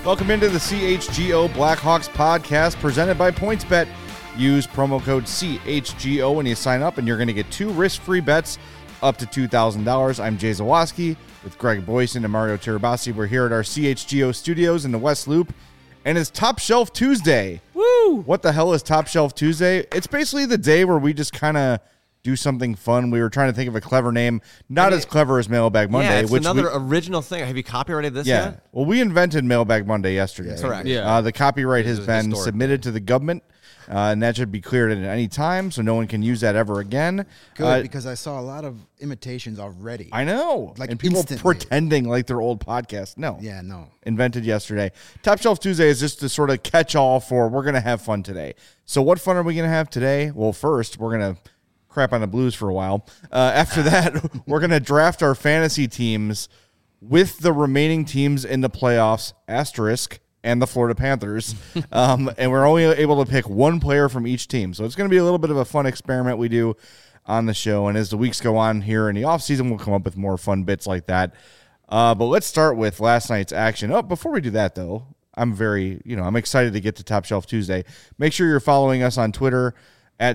Welcome into the CHGO Blackhawks podcast presented by PointsBet. Use promo code CHGO when you sign up, and you're going to get 2 risk-free bets up to $2,000. I'm Jay Zawaski with Greg Boyson and Mario Tirabassi. We're here at our CHGO studios in the West Loop, and it's Top Shelf Tuesday. Woo! What the hell is Top Shelf Tuesday? It's basically the day where we just kind of do something fun. We were trying to think of a clever name, not as clever as Mailbag Monday. Yeah, it's another original thing. Have you copyrighted this yet? Well, we invented Mailbag Monday yesterday. Correct. Yeah. The copyright has been historic. submitted to the government, and that should be cleared at any time, so no one can use that ever again. Good, because I saw a lot of imitations already. I know. Like and people instantly. pretending like they're old podcasts. No. Yeah, no. Invented yesterday. Top Shelf Tuesday is just the sort of catch-all for we're going to have fun today. So what fun are we going to have today? Well, first, we're going to crap on the Blues for a while. After that, we're going to draft our fantasy teams with the remaining teams in the playoffs, asterisk, and the Florida Panthers. And we're only able to pick one player from each team. So it's going to be a little bit of a fun experiment we do on the show. And as the weeks go on here in the offseason, we'll come up with more fun bits like that. But let's start with last night's action. Oh, before we do that, though, I'm excited to get to Top Shelf Tuesday. Make sure you're following us on Twitter at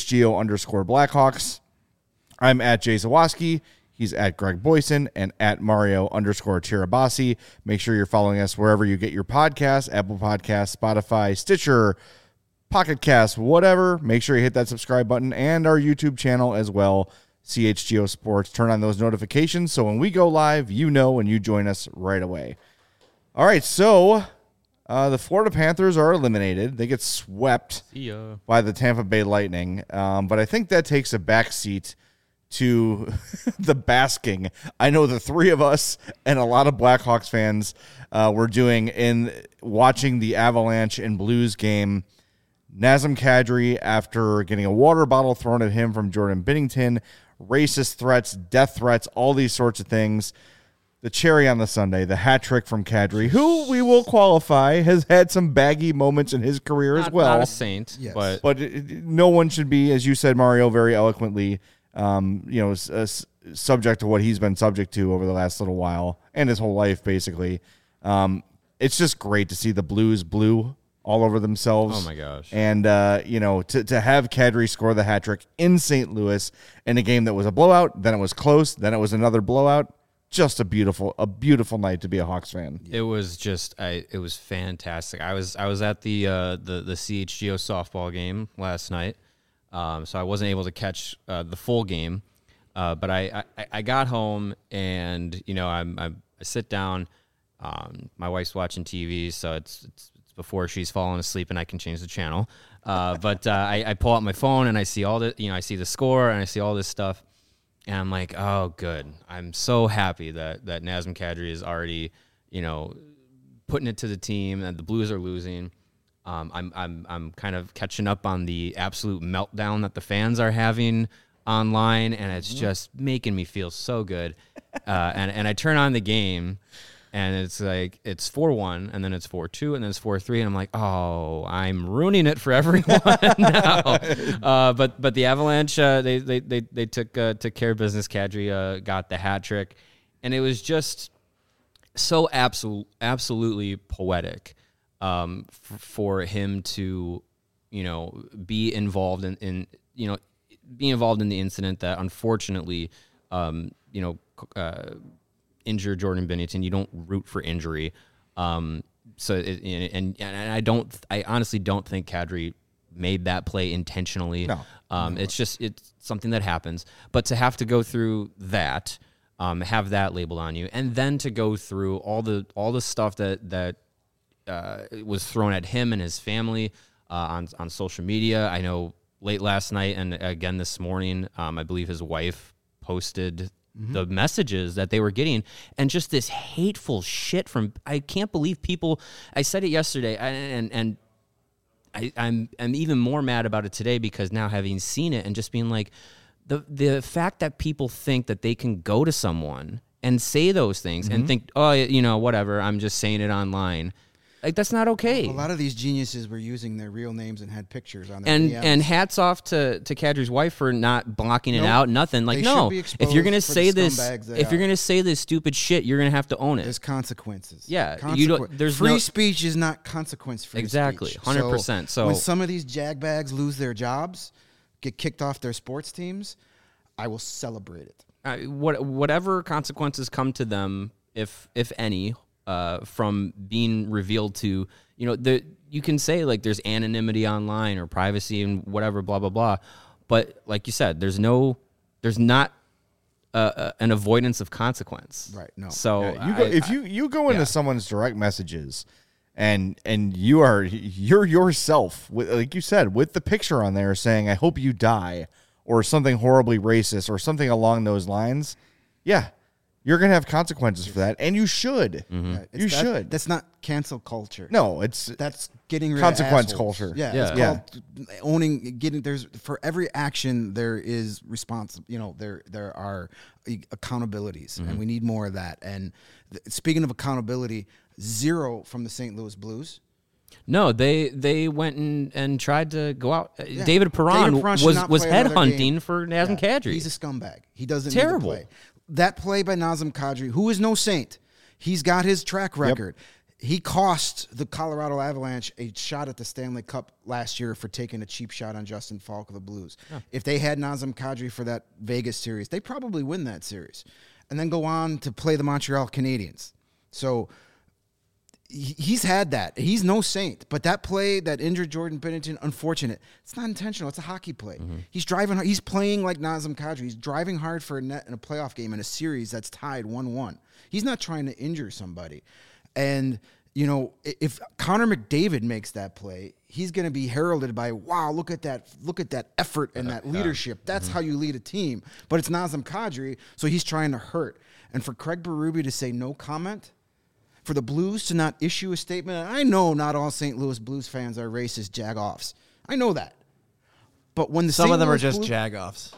CHGO_Blackhawks. I'm at Jay Zawaski. He's at Greg Boyson and at Mario_Tirabassi. Make sure you're following us wherever you get your podcasts, Apple Podcasts, Spotify, Stitcher, Pocket Cast, whatever. Make sure you hit that subscribe button and our YouTube channel as well, CHGO Sports. Turn on those notifications so when we go live, you know and you join us right away. All right, so the Florida Panthers are eliminated. They get swept by the Tampa Bay Lightning. But I think that takes a backseat to the basking I know the three of us and a lot of Blackhawks fans were doing in watching the Avalanche and Blues game. Nazem Kadri, after getting a water bottle thrown at him from Jordan Binnington, racist threats, death threats, all these sorts of things. The cherry on the sundae, the hat trick from Kadri, who we will qualify has had some baggy moments in his career as well. Not a saint, Yes. but No one should be, as you said, Mario, very eloquently, subject to what he's been subject to over the last little while and his whole life, basically. It's just great to see the Blues blue all over themselves. Oh my gosh! And to have Kadri score the hat trick in St. Louis in a game that was a blowout, then it was close, then it was another blowout. Just a beautiful night to be a Hawks fan. It was just, it was fantastic. I was at the CHGO softball game last night, so I wasn't able to catch the full game. But I got home and I sit down. My wife's watching TV, so it's before she's fallen asleep and I can change the channel. But I pull out my phone and I see I see the score and I see all this stuff. And I'm like, oh, good. I'm so happy that Nazem Kadri is already, putting it to the team and the Blues are losing. I'm kind of catching up on the absolute meltdown that the fans are having online, and it's just making me feel so good. And I turn on the game, and it's like it's 4-1, and then it's 4-2, and then it's 4-3, and I'm like, oh, I'm ruining it for everyone now. But the Avalanche, they took care of business. Kadri got the hat trick, and it was just so absolutely poetic for him to be involved in the incident that unfortunately injure Jordan Binnington. You don't root for injury. I honestly don't think Kadri made that play intentionally. No. It's something that happens. But to have to go through that, have that labeled on you, and then to go through all the stuff that was thrown at him and his family on social media. I know late last night and again this morning, I believe his wife posted the messages that they were getting, and just this hateful shit from, I can't believe people, I said it yesterday, and I'm even more mad about it today because now having seen it and just being like, the fact that people think that they can go to someone and say those things and think, oh, whatever, I'm just saying it online. Like, that's not okay. A lot of these geniuses were using their real names and had pictures on their And DMs. and hats off to Kadri's wife for not blocking it Nope. out. Nothing. Like, They no. should be If you're gonna exposed for say the this, scumbags they if you're are. gonna say this stupid shit, you're gonna have to own it. There's consequences. Yeah, you don't- there's free no- speech is not consequence-free. Exactly, speech. 100%. So- when some of these jagbags lose their jobs, get kicked off their sports teams, I will celebrate it. Whatever consequences come to them, if any, from being revealed to, you can say like there's anonymity online or privacy and whatever, blah blah blah, but like you said, there's not an avoidance of consequence. Right, no. So if you go into someone's direct messages and you're yourself, like you said, with the picture on there saying "I hope you die" or something horribly racist or something along those lines, yeah, you're gonna have consequences for that, and you should. Yeah, You should. That's not cancel culture. No, it's That's getting rid consequence of assholes. culture. Yeah, Yeah. it's called owning. There's for every action there is there are accountabilities, and we need more of that. And speaking of accountability, zero from the St. Louis Blues. No, they went and tried to go out. Yeah. David Perron should not was play another headhunting game. for Nazem Kadri. He's a scumbag. He doesn't Terrible. need to play. That play by Nazem Kadri, who is no saint, he's got his track record. He cost the Colorado Avalanche a shot at the Stanley Cup last year for taking a cheap shot on Justin Falk of the Blues. If they had Nazem Kadri for that Vegas series, they probably win that series and then go on to play the Montreal Canadiens. So he's had that. He's no saint. But that play that injured Jordan Binnington, unfortunate. It's not intentional. It's a hockey play. He's driving hard. He's playing like Nazem Kadri. He's driving hard for a net in a playoff game in a series that's tied 1-1. He's not trying to injure somebody. And, if Connor McDavid makes that play, he's going to be heralded by, wow, look at that effort and that leadership. That's how you lead a team. But it's Nazem Kadri, so he's trying to hurt. And for Craig Berube to say no comment, for the Blues to not issue a statement, and I know not all St. Louis Blues fans are racist jagoffs. I know that. But when Some St. of them are Louis just Blues- jagoffs.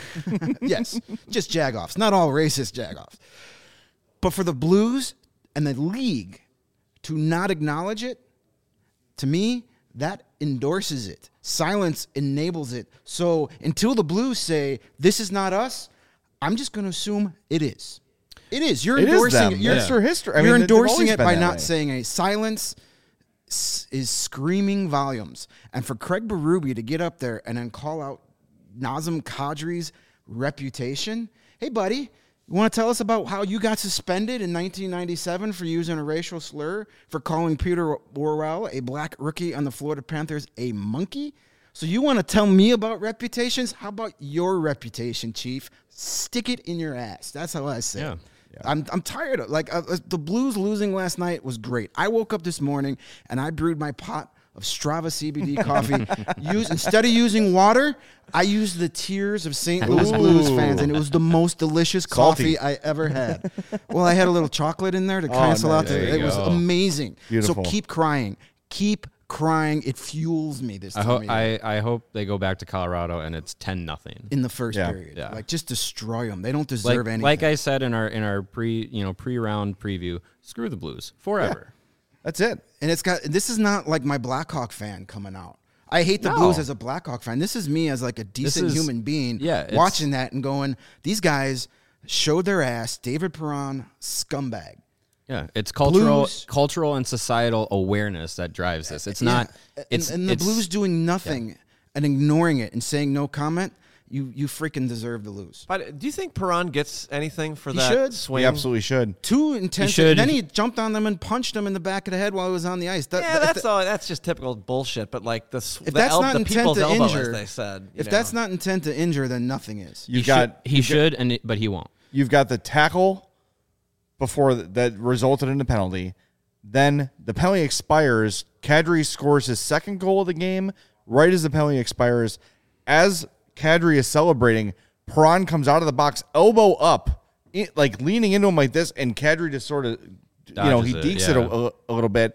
Yes, just jagoffs. Not all racist jagoffs. But for the Blues and the league to not acknowledge it, to me, that endorses it. Silence enables it. So until the Blues say, this is not us, I'm just going to assume it is. It is. You're It is endorsing them. it. You're, It's their history. I You're mean, they've endorsing always it been by that not way. saying a silence is screaming volumes. And for Craig Berube to get up there and then call out Nazem Kadri's reputation, hey, buddy, you want to tell us about how you got suspended in 1997 for using a racial slur, for calling Peter Worrell, a black rookie on the Florida Panthers, a monkey? So you want to tell me about reputations? How about your reputation, Chief? Stick it in your ass. That's how I say it. I'm tired of the Blues losing last night was great. I woke up this morning and I brewed my pot of Strava CBD coffee. Instead of using water, I used the tears of St. Louis Blues fans, and it was the most delicious Salty. coffee I ever had. Well, I had a little chocolate in there to cancel out. there you It was go. amazing. Beautiful. So keep crying. Keep crying. It fuels me this I time hope of year. I hope they go back to Colorado and it's 10-0. In the first Yeah. period. Yeah. Like, just destroy them. They don't deserve anything. Like I said in our pre-round preview, screw the Blues forever. That's it. And this is not like my Blackhawk fan coming out. I hate the No. Blues as a Blackhawk fan. This is me as like a decent is- human being yeah, it's- watching that and going, these guys showed their ass. David Perron, scumbag. Yeah, it's Blues- cultural and societal awareness that drives this. It's not. Yeah. It's and the it's- Blues doing nothing and ignoring it and saying no comment. You freaking deserve to lose. But do you think Perron gets anything for He that should. swing? We absolutely should. Too intense. should. Then he jumped on them and punched them in the back of the head while he was on the ice. Yeah, that's just typical bullshit. But like If that's not the intent people's to elbow, injure, as they said. if that's not intent to injure, then nothing is. You've got he should but he won't. You've got the tackle before that resulted in a penalty. Then the penalty expires. Kadri scores his second goal of the game right as the penalty expires. As Kadri is celebrating, Perron comes out of the box, elbow up, like leaning into him like this, and Kadri just sort of, he Dodges it, dekes yeah. it a little bit.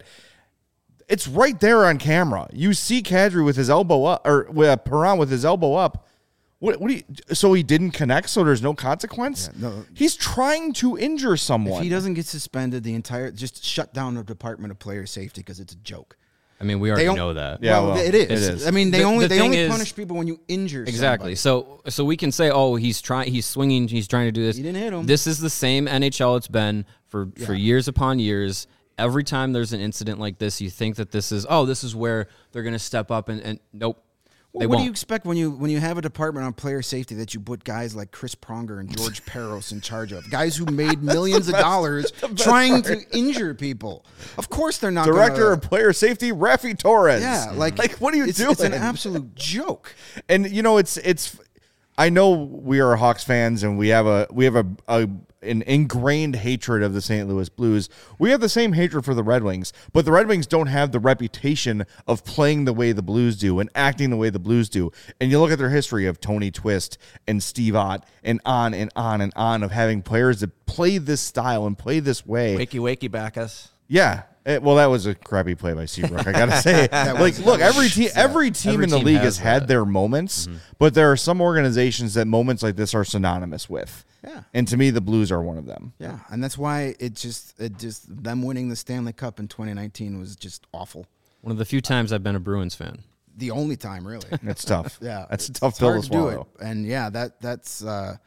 It's right there on camera. You see Kadri with his elbow up, or with Perron with his elbow up. What do you? So he didn't connect, so there's no consequence. Yeah, no. He's trying to injure someone. If he doesn't get suspended, just shut down the Department of Player Safety because it's a joke. I mean, we already know that. Yeah, well, well, it is. it is. I mean, they The only thing is- punish people when you injure Exactly. somebody. So we can say, oh, he's swinging, he's trying to do this. He didn't hit him. This is the same NHL it's been for years upon years. Every time there's an incident like this, you think that this is where they're going to step up, and nope. Well, They what do won't. you expect when you have a department on player safety that you put guys like Chris Pronger and George Peros in charge of? Guys who made millions of dollars trying to injure people. Of course they're not Director gonna, of Player Safety, Rafi Torres. Yeah, like what are you doing? It's an absolute joke. And it's. I know we are Hawks fans, and we have an ingrained hatred of the St. Louis Blues. We have the same hatred for the Red Wings, but the Red Wings don't have the reputation of playing the way the Blues do and acting the way the Blues do. And you look at their history of Tony Twist and Steve Ott and on and on and on of having players that play this style and play this way. Wakey, Bacchus. Yeah. Well, that was a crappy play by Seabrook. I gotta say, look, every team Every in the team league has has had that. their moments, but there are some organizations that moments like this are synonymous with. Yeah. And to me, the Blues are one of them. Yeah, and that's why it just them winning the Stanley Cup in 2019 was just awful. One of the few times I've been a Bruins fan. The only time, really. It's tough. Yeah, that's a it's tough pill hard to to do swallow. it. And yeah, that's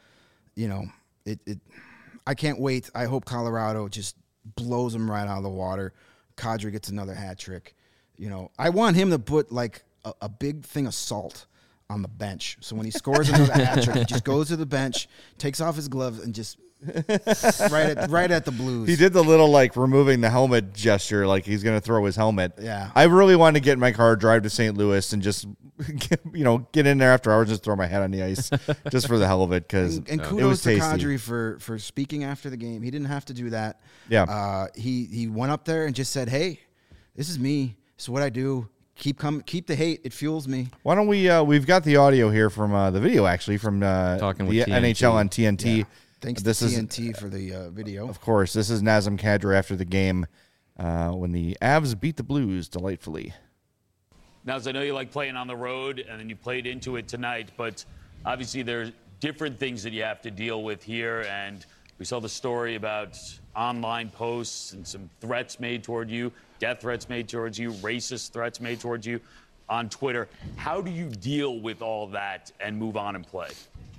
it. I can't wait. I hope Colorado just blows them right out of the water. Kadri gets another hat trick. I want him to put like a big thing of salt on the bench. So when he scores another hat trick, he just goes to the bench, takes off his gloves, and just right at the Blues. He did the little like removing the helmet gesture, like he's going to throw his helmet. Yeah. I really wanted to get in my car, drive to St. Louis, and just get in there after hours, just throw my head on the ice, just for the hell of it, because And it kudos was to tasty. Kadri for speaking after the game. He didn't have to do that. Yeah. He went up there and just said, "Hey, this is me. This is what I do. Keep the hate. It fuels me." Why don't we? We've got the audio here from the video, actually, from Talking the with TNT. NHL on TNT. Yeah. Thanks This to is, TNT for the video. of course, this is Nazem Kadri after the game when the Avs beat the Blues delightfully. Now, as I know you like playing on the road, and then you played into it tonight, but obviously there's different things that you have to deal with here, and we saw the story about online posts and some threats made toward you, death threats made towards you, racist threats made towards you on Twitter. How do you deal with all that and move on and play?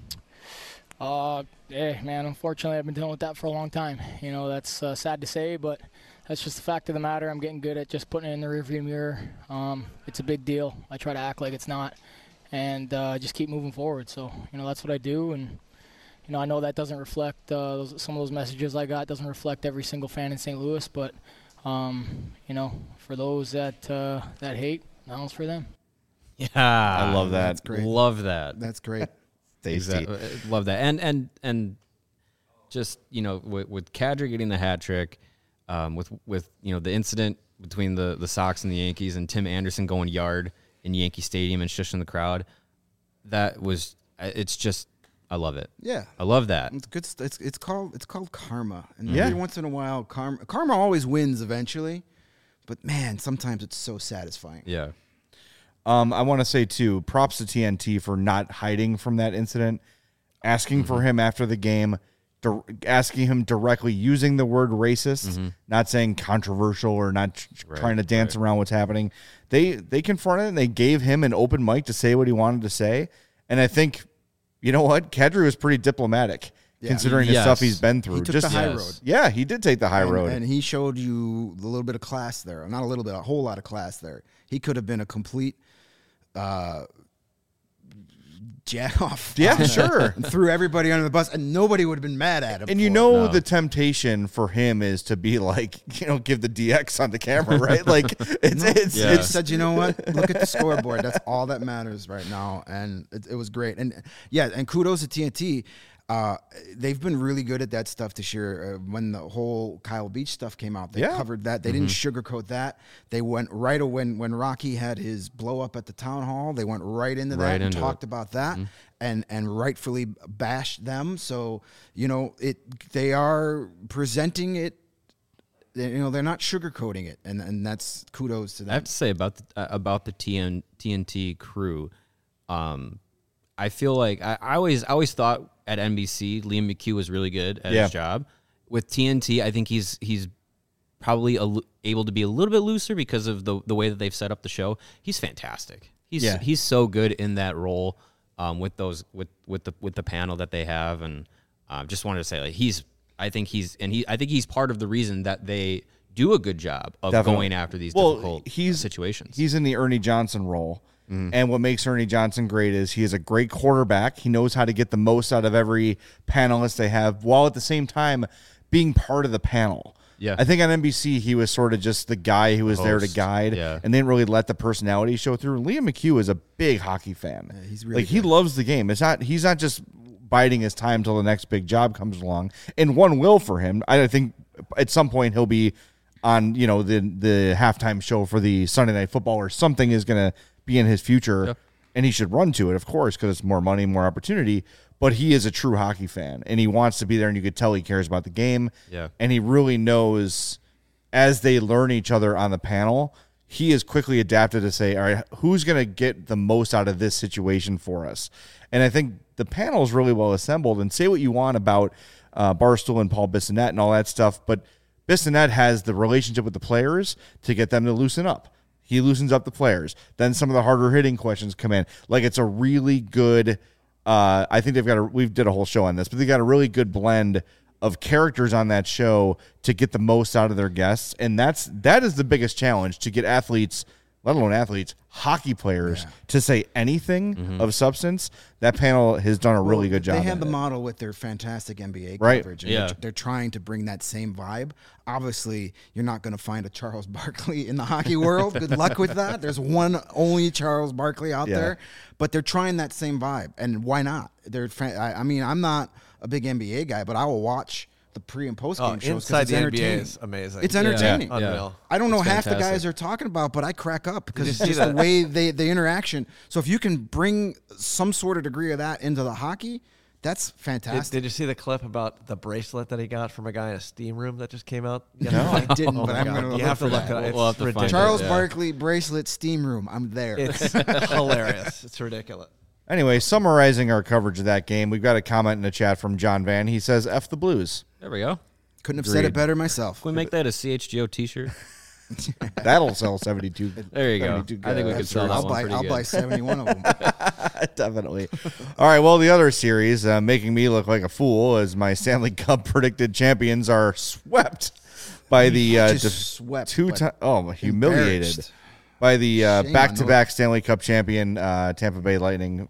Man, unfortunately, I've been dealing with that for a long time. That's sad to say, but that's just the fact of the matter. I'm getting good at just putting it in the rearview mirror. It's a big deal. I try to act like it's not, and just keep moving forward. So, that's what I do, and I know that doesn't reflect some of those messages I got. Doesn't reflect every single fan in St. Louis, but for those that hate, that one's for them. Yeah, I love that. That's great. Love that. That's great. Tasty. Exactly. Love that. And just, with Kadri getting the hat trick, with the incident between the Sox and the Yankees and Tim Anderson going yard in Yankee Stadium and shushing the crowd, it's just, I love it. Yeah. I love that. It's good. It's called karma, and Yeah. every once in a while, karma always wins eventually. But man, sometimes it's so satisfying. Yeah. I want to say, too, props to TNT for not hiding from that incident, asking for him after the game, asking him directly, using the word racist, not saying controversial or not trying to dance around what's happening. They confronted it, and they gave him an open mic to say what he wanted to say. And I think, you know what? Kadri was pretty diplomatic, considering the Yes. stuff he's been through. He took the high road. Yeah, he did take the high road. And he showed you a little bit of class there. Not a little bit, a whole lot of class there. He could have been a complete jack off. Yeah, sure. And threw everybody under the bus, and nobody would have been mad at him. And you for it. know the temptation for him is to be like, give the DX on the camera, right? Like it's Yeah. He said, you know what? Look at the scoreboard. That's all that matters right now. And it was great. And yeah, and kudos to TNT. They've been really good at that stuff this year. When the whole Kyle Beach stuff came out, they covered that. They didn't sugarcoat that. They went right away when Rocky had his blow up at the town hall. They went right into Right that and into talked about that and rightfully bashed them. So they are presenting it. They're not sugarcoating it, and that's kudos to them. I have to say about the TNT crew, I feel like I always thought at NBC Liam McHugh was really good at his job. With TNT, I think he's probably able to be a little bit looser because of the way that they've set up the show. He's fantastic. He's so good in that role with the panel that they have, and just wanted to say like I think he's part of the reason that they do a good job of going after these difficult situations. He's in the Ernie Johnson role. And what makes Ernie Johnson great is he is a great quarterback. He knows how to get the most out of every panelist they have, while at the same time being part of the panel. Yeah. I think on NBC he was sort of just the guy who was there to guide and didn't really let the personality show through. Liam McHugh is a big hockey fan. Yeah, he's really he loves the game. He's not just biding his time till the next big job comes along. And one will for him. I think at some point he'll be on, the halftime show for the Sunday Night Football, or something is going to be in his future, and he should run to it, of course, because it's more money, more opportunity. But he is a true hockey fan, and he wants to be there, and you could tell he cares about the game. Yeah. And he really knows, as they learn each other on the panel, he is quickly adapted to say, all right, who's going to get the most out of this situation for us? And I think the panel is really well assembled, and say what you want about Barstool and Paul Bissonnette and all that stuff, but Bissonnette has the relationship with the players to get them to loosen up. He loosens up the players. Then some of the harder hitting questions come in. Like, it's a really good, I think we did a whole show on this, but they got a really good blend of characters on that show to get the most out of their guests. And that is the biggest challenge, to get athletes, let alone athletes, hockey players, to say anything of substance. That panel has done a really good job. They had the model with their fantastic NBA coverage. And they're trying to bring that same vibe. Obviously, you're not going to find a Charles Barkley in the hockey world. Good luck with that. There's only Charles Barkley out there. But they're trying that same vibe. And why not? I'm not a big NBA guy, but I will watch the pre and post game shows because it's entertaining. NBA is amazing. It's entertaining. Yeah. Unreal. I don't know It's half the fantastic. guys they're talking about, but I crack up because it's you just see the that? way the interaction. So if you can bring some sort of degree of that into the hockey, that's fantastic. Did you see the clip about the bracelet that he got from a guy in a steam room that just came out? No, I didn't, but I'm going to You have to look that. at it. It's We'll have to find ridiculous. it. Charles Yeah. Barkley bracelet steam room. I'm there. It's hilarious. It's ridiculous. Anyway, summarizing our coverage of that game, we've got a comment in the chat from John Van. He says, F the Blues. There we go. Couldn't have said it better myself. Can we make that a CHGO T-shirt? That'll sell 72. There you go. 72 I think we could sell that I'll one pretty I'll good. buy 71 of them. Definitely. All right, well, the other series, making me look like a fool, as my Stanley Cup predicted champions are swept by the Just swept, humiliated embarrassed. by the Shame back-to-back Stanley Cup champion Tampa Bay Lightning,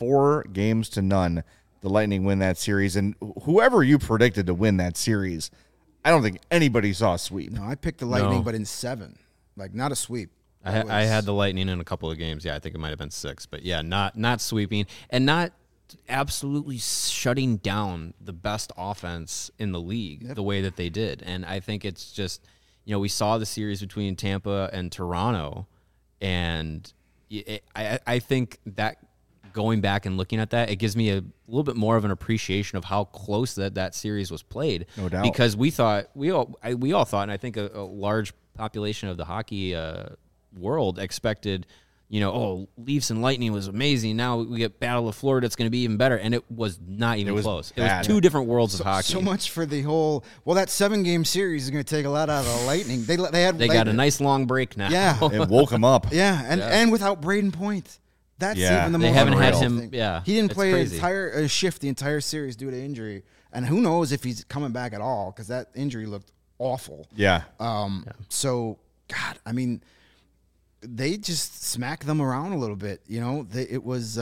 4-0. The Lightning win that series, and whoever you predicted to win that series, I don't think anybody saw a sweep. No, I picked the Lightning, No. but in 7. Like, not a sweep. I had the Lightning in a couple of games. Yeah, I think it might have been 6, but yeah, not sweeping and not absolutely shutting down the best offense in the league the way that they did. And I think it's just, we saw the series between Tampa and Toronto, and I think that going back and looking at that, it gives me a little bit more of an appreciation of how close that series was played. No doubt. Because we all thought, and I think a large population of the hockey world expected, Leafs and Lightning was amazing. Now we get Battle of Florida. It's going to be even better. And it was not even close. It was 2 different worlds of hockey. So much for the whole. Well, that 7-game series is going to take a lot out of the Lightning. They got a nice long break now. Yeah. It woke him up. Yeah, and without Braden Point. That's Yeah. even the They most haven't had unreal him- thing. yeah, He didn't it's play crazy. a shift the entire series due to injury, and who knows if he's coming back at all because that injury looked awful. Yeah. So, God, I mean, they just smacked them around a little bit. It was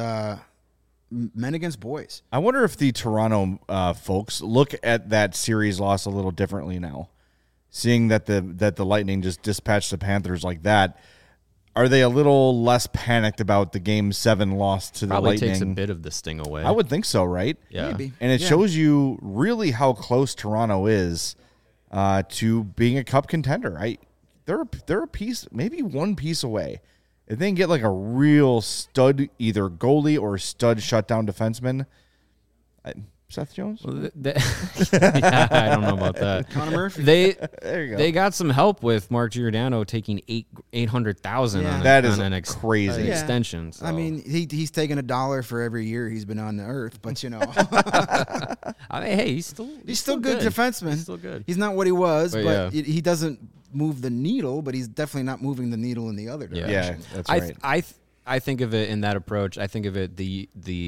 men against boys. I wonder if the Toronto folks look at that series loss a little differently now, seeing that the Lightning just dispatched the Panthers like that. Are they a little less panicked about the Game 7 loss to Probably the Lightning? takes a bit of the sting away. I would think so, right? Yeah. Maybe. And it shows you really how close Toronto is to being a Cup contender. They're a piece, maybe one piece away. If they can get like a real stud, either goalie or stud shutdown defenseman, Seth Jones? Yeah, I don't know about that. Connor Murphy. There you go. They got some help with Mark Giordano taking $800,000 Yeah. on That is an crazy. Yeah. extension. So. I mean, he's taken $1 for every year he's been on the earth, but hey, he's still good defenseman. He's still good. He's not what he was, But but yeah. he doesn't move the needle, but he's definitely not moving the needle in the other Yeah. direction. Yeah, that's right. I think of it in that approach. I think of it the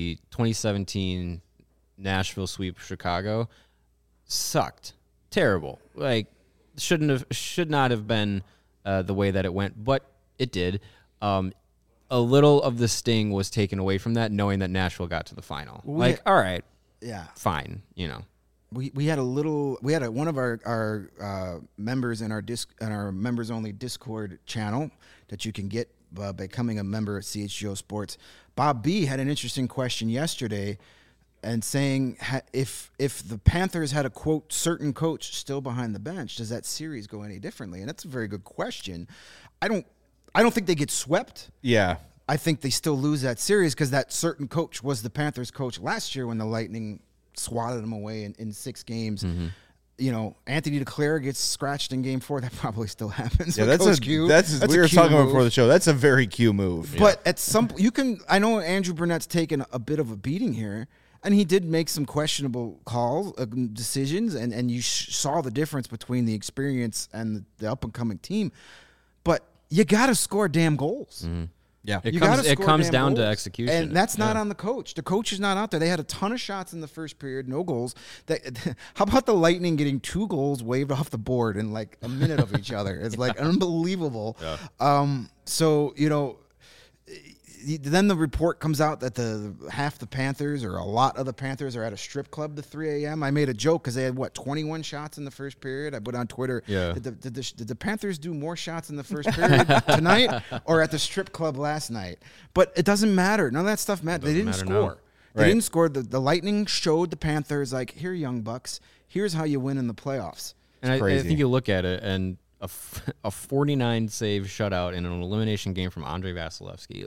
2017 Nashville sweep of Chicago sucked, terrible. Like should not have been the way that it went, but it did. A little of the sting was taken away from that, knowing that Nashville got to the final. All right, Yeah. fine, you know. We had one of our members in our members only Discord channel that you can get by becoming a member at CHGO Sports. Bob B had an interesting question yesterday, and saying if the Panthers had a quote certain coach still behind the bench, does that series go any differently? And that's a very good question. I don't think they get swept. Yeah. I think they still lose that series because that certain coach was the Panthers coach last year when the Lightning swatted them away in 6 games. Mm-hmm. You know, Anthony DeClaire gets scratched in Game 4. That probably still happens. Yeah, with that's Coach a Q. that's a we were Q talking about move. before the show. That's a very Q move. But at some I know Andrew Burnett's taken a bit of a beating here, and he did make some questionable calls, decisions, and you saw the difference between the experience and the up and coming team. But you got to score damn goals. Mm-hmm. Yeah. It You comes gotta score comes damn down to goals. execution, and that's not on the coach. The coach is not out there. They had a ton of shots in the first period, no goals. How about the Lightning getting 2 goals waved off the board in like a minute of each other? It's like unbelievable. So then the report comes out that half the Panthers or a lot of the Panthers are at a strip club to 3 a.m. I made a joke because they had 21 shots in the first period. I put on Twitter. Yeah. Did the Panthers do more shots in the first period tonight or at the strip club last night? But it doesn't matter. None of that stuff mattered. They didn't matter score. now. They Right. didn't score. The Lightning showed the Panthers like, here, young bucks. Here's how you win in the playoffs. And I crazy. think you look at it, and a 49 save shutout in an elimination game from Andrei Vasilevsky.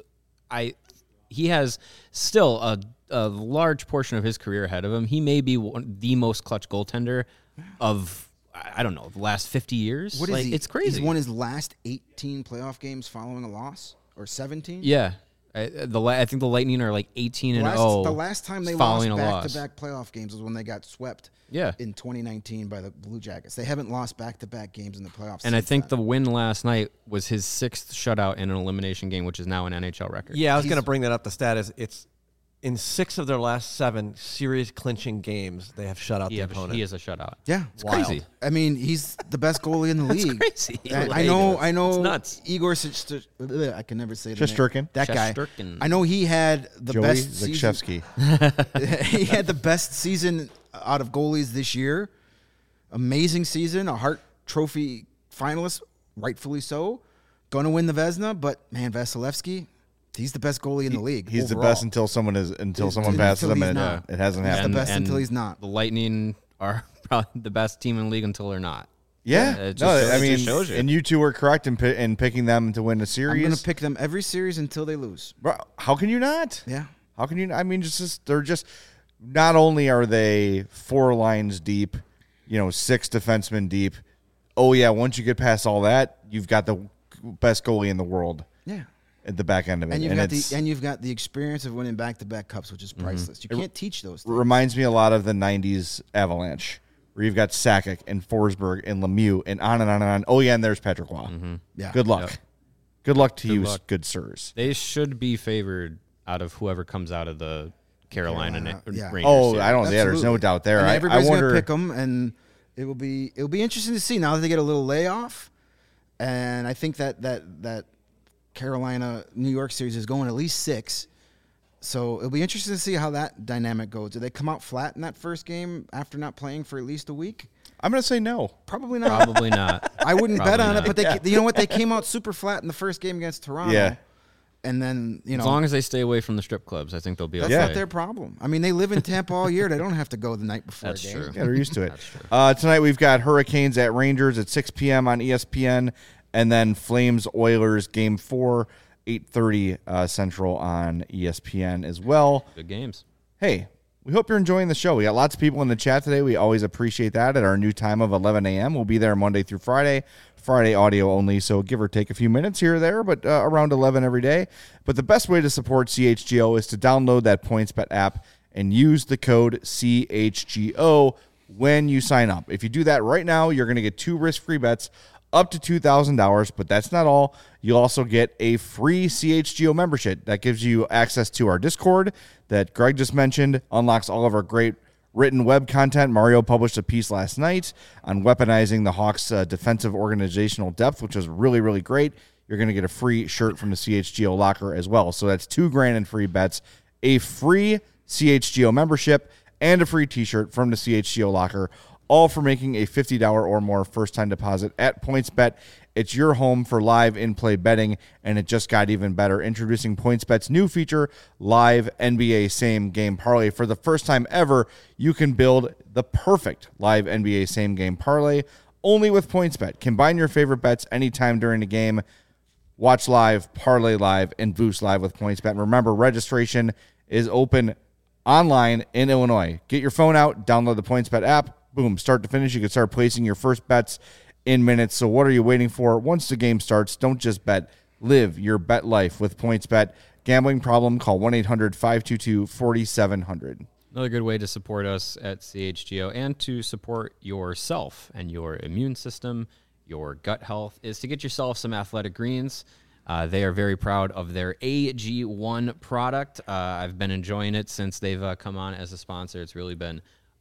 He has still a large portion of his career ahead of him. He may be the most clutch goaltender of, I don't know, the last 50 years. What is he? It's crazy. He's won his last 18 playoff games following a loss, or 17. Yeah. I think the Lightning are like 18-0. The last time they lost following a loss. back-to-back playoff games was when they got swept. Yeah. In 2019 by the Blue Jackets. They haven't lost back-to-back games in the playoffs. And I since think then. the win last night was his 6th shutout in an elimination game, which is now an NHL record. Yeah, I was going to bring that up. The stat is it's in 6 of their last 7 series clinching games, they have shut out the opponent. He is a shutout. Yeah, It's crazy. I mean, he's the best goalie in the league. crazy. And Like, I know. it's nuts. Igor I can never say the name. Shesterkin. That guy. Shesterkin. I know he had the Joey best season. Zakshevsky. He had the best season out of goalies this year. Amazing season, a Hart Trophy finalist, rightfully so. Going to win the Vezina, but man, Vasilevsky, he's the best goalie in the league. He's the overall. best until someone Until passes him, he's and not. it hasn't He's the happened. best until he's not. The Lightning are probably the best team in the league until they're not. Yeah, It just no, shows- I it mean, just shows you. and you two were correct in picking them to win a I'm series. going to pick them every series until they lose. Bro, how can you not? Yeah. How can you? I mean, they're just. Not only are they 4 lines deep, 6 defensemen deep. Oh yeah, once you get past all that, you've got the best goalie in the world. Yeah. At the back end of it, And you've got the experience of winning back-to-back cups, which is priceless. You can't teach those things. reminds me a lot of the '90s Avalanche, where you've got Sakic and Forsberg and Lemieux and on and on and on. Oh yeah, and there's Patrick Waugh. Yeah. Good luck. Yep. Good luck to you, luck. good sirs. They should be favored out of whoever comes out of the Carolina yeah. Rangers. Oh, series. I don't. Yeah, there's no Absolutely. doubt there. And I everybody's wonder. gonna pick them, and it'll be interesting to see now that they get a little layoff. And I think that Carolina New York series is going at least 6. So it'll be interesting to see how that dynamic goes. Do they come out flat in that first game after not playing for at least a week? I'm gonna say no. Probably not. Probably not. I wouldn't bet Probably on not. it, but you know what? They came out super flat in the first game against Toronto. Yeah. And then, As long as they stay away from the strip clubs, I think they'll be that's okay. not their problem. I mean, they live in Tampa all year. They don't have to go the night before That's a game. true. Yeah, they're used to it. Tonight we've got Hurricanes at Rangers at 6 p.m. on ESPN, and then Flames Oilers Game 4, 8:30 Central on ESPN as well. Good games. Hey, we hope you're enjoying the show. We got lots of people in the chat today. We always appreciate that at our new time of 11 a.m. We'll be there Monday through Friday. Friday audio only, so give or take a few minutes here or there, but around 11 every day. But the best way to support CHGO is to download that PointsBet app and use the code CHGO when you sign up. If you do that right now, you're going to get 2 risk-free bets up to $2,000, but that's not all. You'll also get a free CHGO membership that gives you access to our Discord that Greg just mentioned, unlocks all of our great written web content. Mario published a piece last night on weaponizing the Hawks' defensive organizational depth, which was really, really great. You're going to get a free shirt from the CHGO locker as well. So that's $2,000 in free bets, a free CHGO membership, and a free t-shirt from the CHGO locker, all for making a $50 or more first-time deposit at PointsBet. It's your home for live in-play betting, and it just got even better. Introducing PointsBet's new feature, Live NBA Same Game Parlay. For the first time ever, you can build the perfect live NBA Same Game Parlay only with PointsBet. Combine your favorite bets anytime during the game. Watch live, parlay live, and boost live with PointsBet. And remember, registration is open online in Illinois. Get your phone out, download the PointsBet app. Boom, start to finish. You can start placing your first bets in minutes. So what are you waiting for? Once the game starts, don't just bet. Live your bet life with PointsBet. Gambling problem? Call 1-800-522-4700. Another good way to support us at CHGO and to support yourself and your immune system, your gut health, is to get yourself some Athletic Greens. They are very proud of their AG1 product. I've been enjoying it since they've come on as a sponsor. It's really been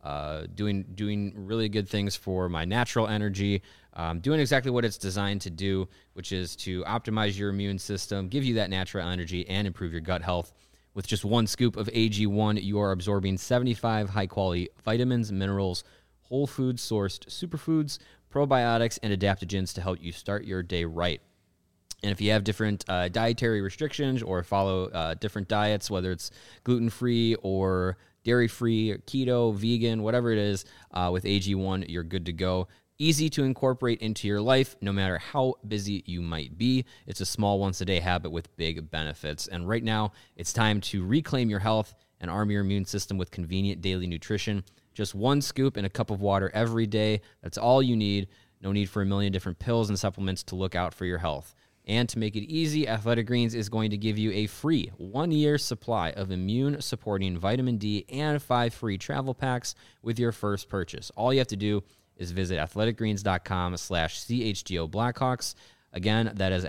doing really good things for my natural energy, doing exactly what it's designed to do, which is to optimize your immune system, give you that natural energy, and improve your gut health. With just 1 scoop of AG1, you are absorbing 75 high-quality vitamins, minerals, whole food-sourced superfoods, probiotics, and adaptogens to help you start your day right. And if you have different dietary restrictions or follow different diets, whether it's gluten-free or dairy-free, keto, vegan, whatever it is, with AG1, you're good to go. Easy to incorporate into your life, no matter how busy you might be. It's a small once-a-day habit with big benefits. And right now, it's time to reclaim your health and arm your immune system with convenient daily nutrition. Just 1 scoop in a cup of water every day. That's all you need. No need for a million different pills and supplements to look out for your health. And to make it easy, Athletic Greens is going to give you a free 1-year supply of immune-supporting vitamin D and 5 free travel packs with your first purchase. All you have to do is visit athleticgreens.com/CHGO Blackhawks. Again, that is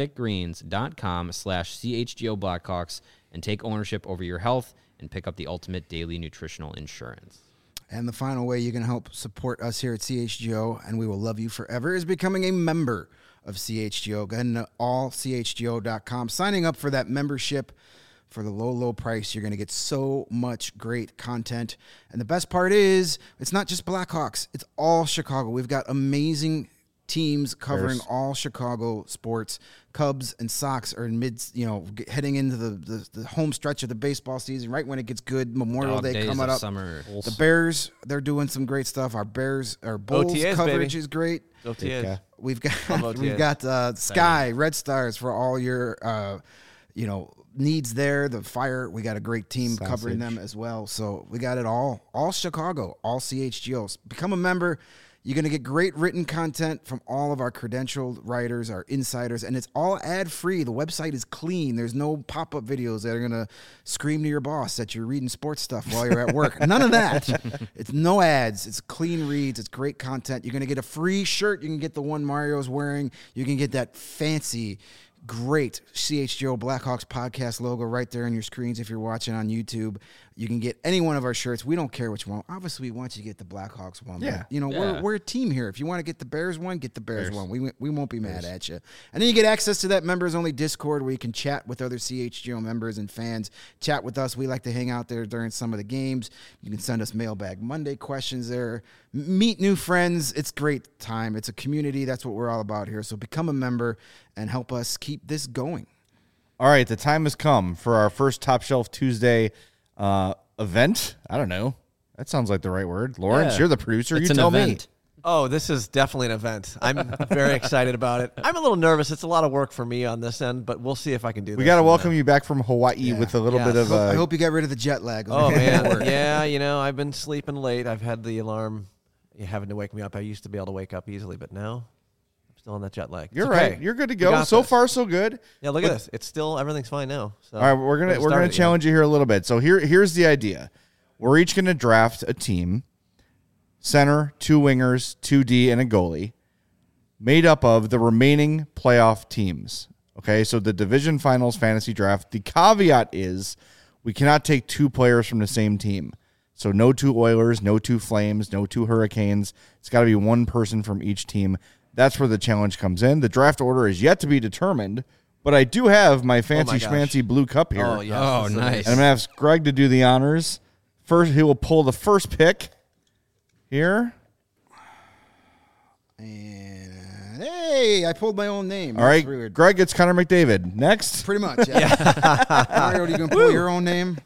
athleticgreens.com/CHGO Blackhawks, and take ownership over your health and pick up the ultimate daily nutritional insurance. And the final way you can help support us here at CHGO, and we will love you forever, is becoming a member of CHGO. Go ahead to allchgo.com. Signing up for that membership for the low, low price. You're going to get so much great content. And the best part is, it's not just Blackhawks. It's all Chicago. We've got amazing teams covering all Chicago sports. Cubs and Sox are heading into the home stretch of the baseball season, right when it gets good. Memorial Day coming up. Summer. The Bears, they're doing some great stuff. Our Bulls OTAs, coverage baby. is great. OTAs. We've got Sky Red Stars for all your needs there. The Fire, we got a great team covering them as well. So we got it all Chicago, all CHGOs. Become a member. You're going to get great written content from all of our credentialed writers, our insiders, and it's all ad-free. The website is clean. There's no pop-up videos that are going to scream to your boss that you're reading sports stuff while you're at work. None of that. It's no ads. It's clean reads. It's great content. You're going to get a free shirt. You can get the one Mario's wearing. You can get that fancy, great CHGO Blackhawks podcast logo right there on your screens if you're watching on YouTube. You can get any one of our shirts. We don't care which one. Obviously, we want you to get the Blackhawks one. Yeah. But, we're a team here. If you want to get the Bears one, get the Bears one. We won't be mad at you. And then you get access to that members-only Discord where you can chat with other CHGO members and fans. Chat with us. We like to hang out there during some of the games. You can send us Mailbag Monday questions there. Meet new friends. It's great time. It's a community. That's what we're all about here. So become a member and help us keep this going. All right, the time has come for our first Top Shelf Tuesday event. I don't know. That sounds like the right word. Lawrence, Yeah. you're the producer. It's You an tell event. Oh, this is definitely an event. I'm very excited about it. I'm a little nervous. It's a lot of work for me on this end, but we'll see if I can do this. We got to welcome you back from Hawaii with a little Yes. bit of. I hope you got rid of the jet lag. Oh, man. Yeah, I've been sleeping late. I've had the alarm having to wake me up. I used to be able to wake up easily, but now I'm still on that jet lag. You're It's okay. right. You're good to We go. got So this. far, so good. Yeah, look at this. It's still, everything's fine now. So All right, we're gonna challenge you here a little bit. So here's the idea. We're each gonna draft a team, center, 2 wingers, 2D, and a goalie, made up of the remaining playoff teams. Okay, so the division finals fantasy draft. The caveat is we cannot take 2 players from the same team. So no 2 Oilers, no 2 Flames, no 2 Hurricanes. It's got to be 1 person from each team. That's where the challenge comes in. The draft order is yet to be determined, but I do have my fancy gosh. schmancy blue cup here. Oh, yes. Oh, This is nice. amazing. And I'm going to ask Greg to do the honors. First, he will pull the first pick here. And hey, I pulled my own name. All right, That's weird. Greg gets Connor McDavid. Next. Pretty much. Yeah. Mario, are you gonna pull your own name?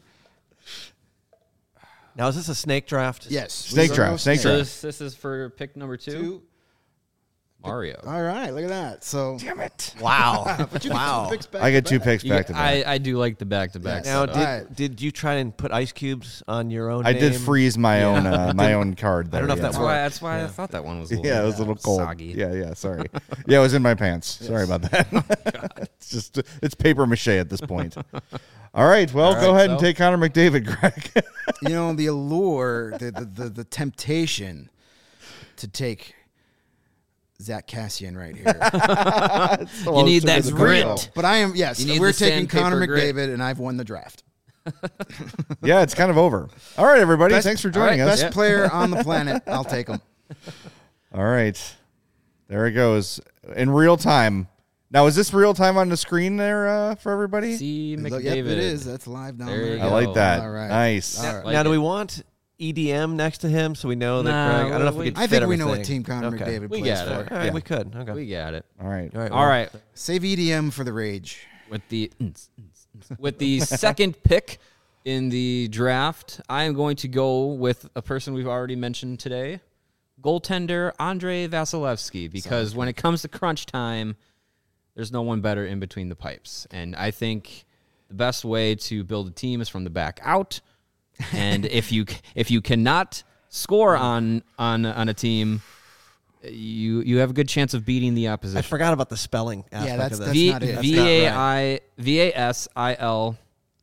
Now, is this a snake draft? Yes. Snake We draft, go snake So draft. this is for pick number 2? 2. Mario. All right, look at that. So, Damn it. Wow. but you get Wow. 2 picks back I get to 2 back. picks back to back. I do like the back-to-back. Now, setup. did, Alright. did you try and put ice cubes on your own I name? did freeze my own card there. I don't know if yeah. that worked. That's why I thought that one was a little, Yeah, it was a little cold. soggy. Yeah, sorry. Yeah, it was in my pants. Sorry about that. It's paper mache at this point. All right, well, go ahead and take Connor McDavid, Greg. The allure, the temptation to take Zach Cassian right here. You need that grit. But I am, yes, You need we're the taking Connor sandpaper grit. McDavid, and I've won the draft. Yeah, it's kind of over. All right, everybody. Thanks for joining us. Best player on the planet. I'll take him. All right. There it goes. In real time. Now, is this real time on the screen there for everybody? See Yep, McDavid. it is. That's live down There there. you I go. like that. All right. Nice. All right. Like now, do it. we want EDM next to him so we know that Nah, Greg? I don't know if we could I fit think we know what everything. team Connor Okay. McDavid We plays got for. it. All right, Yeah. we could. Okay. We got it. All right. All right. All right. Save EDM for the rage. With the second pick in the draft, I am going to go with a person we've already mentioned today, goaltender Andrei Vasilevsky, because when it comes to crunch time, there's no one better in between the pipes. And I think the best way to build a team is from the back out. And if you cannot score on a team, you have a good chance of beating the I opposition. forgot about the spelling aspect that's- of that's this. not it. That's not right. Vasil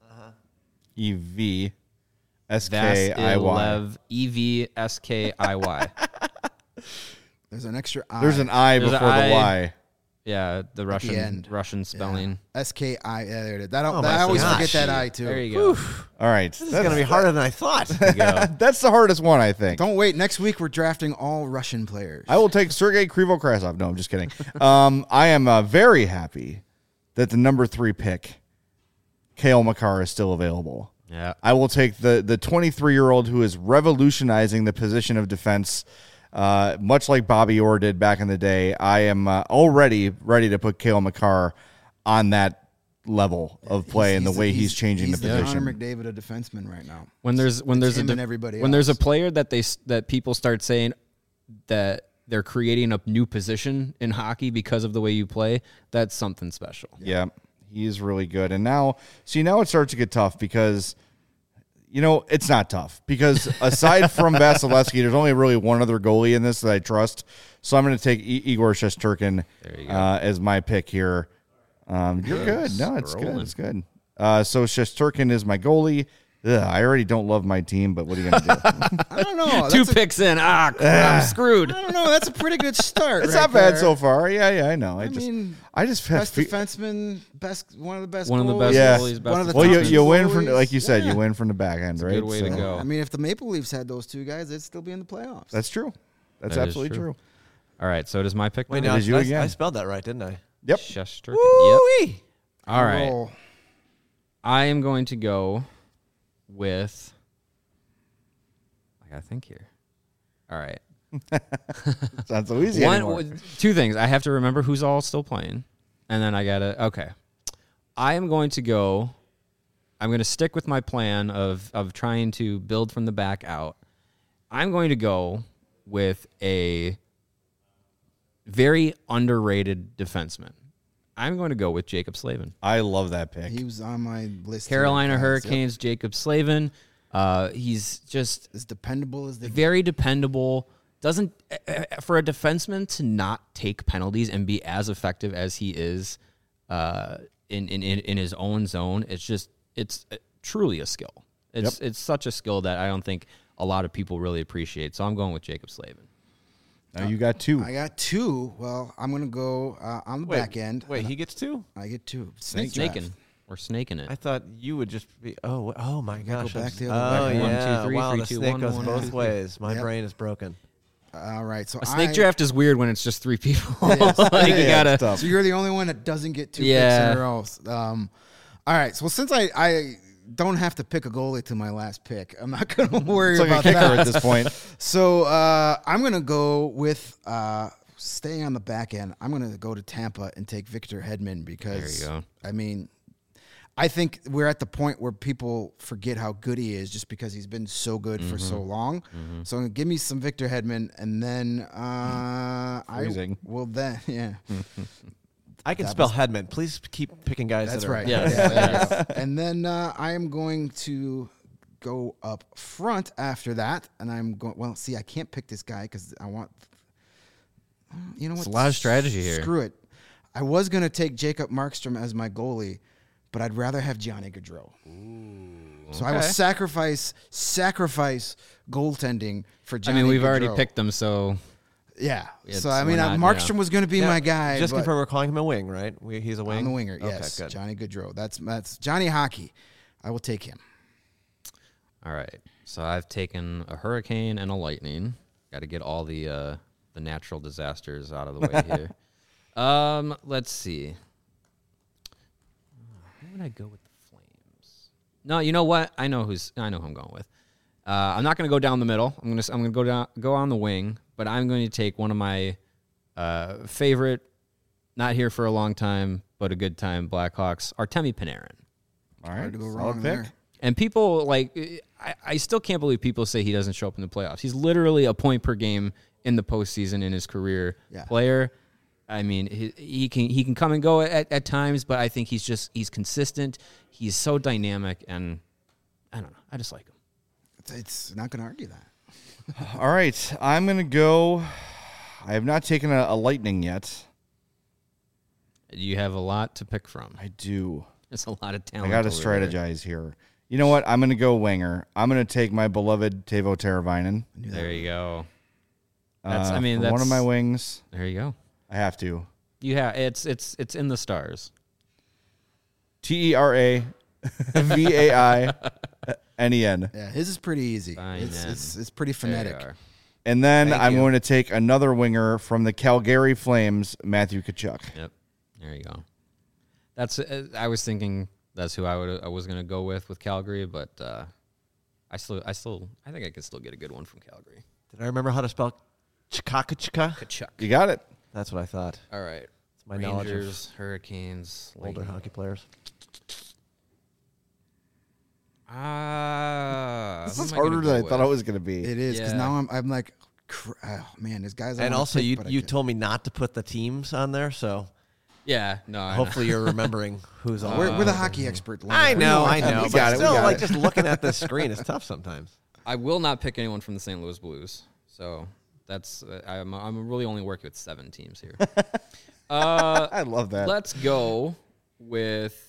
EVSKIY. EVSKIY. There's an extra I. There's an I There's an before the I. Y. Yeah, the end. Russian spelling. SKI. Yeah, there it is. That, Oh my I always gosh. forget that I, too. There you go. All right. This is going to be harder than I thought. That's the hardest one, I think. Don't wait. Next week, we're drafting all Russian players. I will take Sergei Krivo-Krasov. No, I'm just kidding. I am very happy that the number 3 pick, Kale Makar, is still available. Yeah. I will take the 23-year-old who is revolutionizing the position of defense, much like Bobby Orr did back in the day. I am already ready to put Kale Makar on that level of play and the way he's changing the position. Connor McDavid, a defenseman right now. When there's him and everybody when there's a else. player that people start saying that they're creating a new position in hockey because of the way you play, that's something special. Yeah, he is really good. And now it starts to get tough because, it's not tough because aside from Vasilevsky, there's only really one other goalie in this that I trust. So I'm going to take Igor Shesterkin as my pick here. You're good. No, it's good. It's good. So Shesterkin is my goalie. Ugh, I already don't love my team, but what are you going to do? I don't know. Two picks in. I'm screwed. I don't know. That's a pretty good start. It's right not bad there. so far. Yeah, I know. I mean, just have Best defenseman, one of the best. One of the goalies. best Yeah. goalies, One of best the Well, top defensemen. you win from, goalies. like you said, Yeah. you win from the back end, right? good way to go. I mean, if the Maple Leafs had those two guys, they'd still be in the playoffs. That's true. That's That is absolutely true. true. All right, so it is my pick. Wait, now? no, is you I again. spelled that right, didn't I? Yep. Shesterkin. Yep. All right. Roll. I am going to go with. I gotta think here. All right. It's not so easy anymore. Two things. I have to remember who's all still playing, and then I gotta. Okay. I am going to go. I'm going to stick with my plan of trying to build from the back out. I'm going to go with a very underrated defenseman. I'm going to go with Jacob Slavin. I love that pick. He was on my list. Carolina here, guys. Hurricanes, Jacob Slavin. He's just As dependable as they very dependable. Doesn't for a defenseman to not take penalties and be as effective as he is in his own zone. It's truly a skill. It's such a skill that I don't think a lot of people really appreciate. So I'm going with Jacob Slavin. Now you got 2. I got 2. Well, I'm going to go on the back end. Wait, he gets 2? I get 2. Snake draft. Snaking. We're snaking it. I thought you would just be. Oh my gosh! back the oh other way. 1, 2, yeah! 3, Wow, 3, the 2, snake 1, goes 1, both 2, 3. ways. My Yep. brain is broken. All right. So A snake draft is weird when it's just 3 people. like you Yeah, gotta. it's tough. So you're the only one that doesn't get 2 Yeah. picks in a row. All right. So since I don't have to pick a goalie to my last pick, I'm not going to worry It's like a about kicker that. at this point. So I'm going to go with staying on the back end. I'm going to go to Tampa and take Victor Hedman because, There you go. I mean, I think we're at the point where people forget how good he is just because he's been so good for so long. So give me some Victor Hedman, and then Freezing. yeah. I can spell Hedman. Please keep picking guys. That's that are, right. Yeah. there you go. And then I am going to go up front after that, and I'm going. Well, see, I can't pick this guy because I want. You know what? It's a lot of strategy here. Screw it. I was going to take Jacob Markstrom as my goalie, but I'd rather have Johnny Gaudreau. So I will okay. sacrifice goaltending for I Johnny mean, we've Gaudreau. already picked them, so Yeah. It's- So I mean, we're not, Markstrom yeah. was going to be my guy. Just but confirm we're calling him a wing, right? He's a wing. I'm the winger. Okay, Yes, good. Johnny Gaudreau. That's Johnny Hockey. I will take him. all right. So I've taken a hurricane and a lightning. Got to get all the natural disasters out of the way here. Let's see. Who would I go with the Flames? No, you know what? I know who I'm going with. I'm not going to go down the middle. I'm going to go on the wing, but I'm going to take one of my favorite, not here for a long time, but a good time Blackhawks, Artemi Panarin. All right. Hard to go Solid wrong pick. there. And people I still can't believe people say he doesn't show up in the playoffs. He's literally a point per game in the postseason in his career player. I mean, he can come and go at times, but I think he's consistent. He's so dynamic, and I don't know. I just like him. It's not going to argue that. All right. I'm going to go. I have not taken a lightning yet. You have a lot to pick from. I do. There's a lot of I talent. got to over there. strategize here. You know what? I'm going to go winger. I'm going to take my beloved Teuvo Teravainen. There you go. for That's one of my wings. There you go. I have to. You have it's in the stars. TERAVAINEN. Yeah, his is pretty easy. Fine, It's pretty There you phonetic. are. And then Thank I'm you. going to take another winger from the Calgary Flames, Matthew Tkachuk. Yep. There you go. That's. I was thinking that's who I was going to go with Calgary, but I think I can still get a good one from Calgary. Did I remember how to spell Chikakachika? Kachuk. You got it. That's what I thought. All right. It's my knowledge Rangers, Hurricanes, of older Lightning. hockey players. This Who is am I gonna harder than I go thought it with? was going to be. It is because Yeah. now I'm like, oh man, there's guys. I And wanna also, pick, but I you can't. told me not to put the teams on there, so Yeah. No. I know. hopefully you're remembering who's on. We're the hockey expert. Leonard. I We know, what I that know, means. but got it, we still, got like it. just looking at the screen is tough sometimes. I will not pick anyone from the St. Louis Blues. So that's I'm really only working with 7 teams here. I love that. Let's go with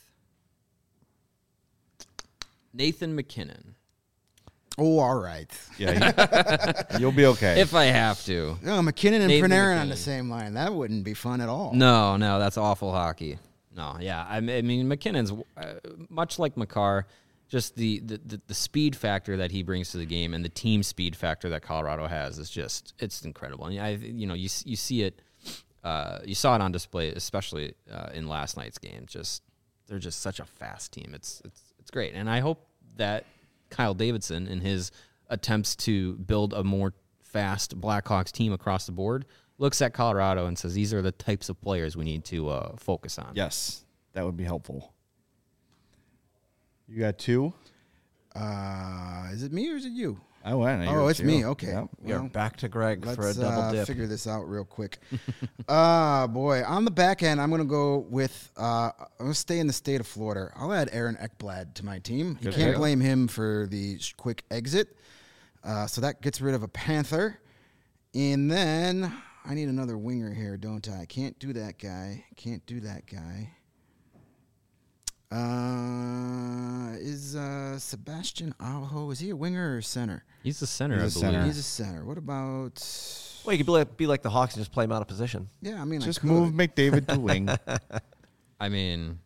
Nathan McKinnon. Oh, all right. Yeah, you'll be okay. If I have to. No, McKinnon and Nathan Panarin on the McKinnon. same line. That wouldn't be fun at all. No, that's awful hockey. No, yeah. I mean, McKinnon's much like Makar, just the speed factor that he brings to the game and the team speed factor that Colorado has is just it's incredible. And you see it, you saw it on display, especially in last night's game. They're just such a fast team. It's great, and I hope that Kyle Davidson, in his attempts to build a more fast Blackhawks team across the board, looks at Colorado and says, these are the types of players we need to focus on. Yes, that would be helpful. You got 2? Is it me or is it you? I went. Oh, it's me. Okay. Yep. We are Well, back to Greg for a let's double dip. figure this out real quick. Boy, on the back end, I'm going to go with. I'm going to stay in the state of Florida. I'll add Aaron Ekblad to my team. You can't blame him for the quick exit. So that gets rid of a Panther, and then I need another winger here, don't I? Can't do that guy. Is Sebastian Aho, is he a winger or center? He's the center, He's I a believe. center. He's a center. What about? Well, you could be like the Hawks and just play him out of position. Yeah, I mean, Just I could. move McDavid to wing. I mean,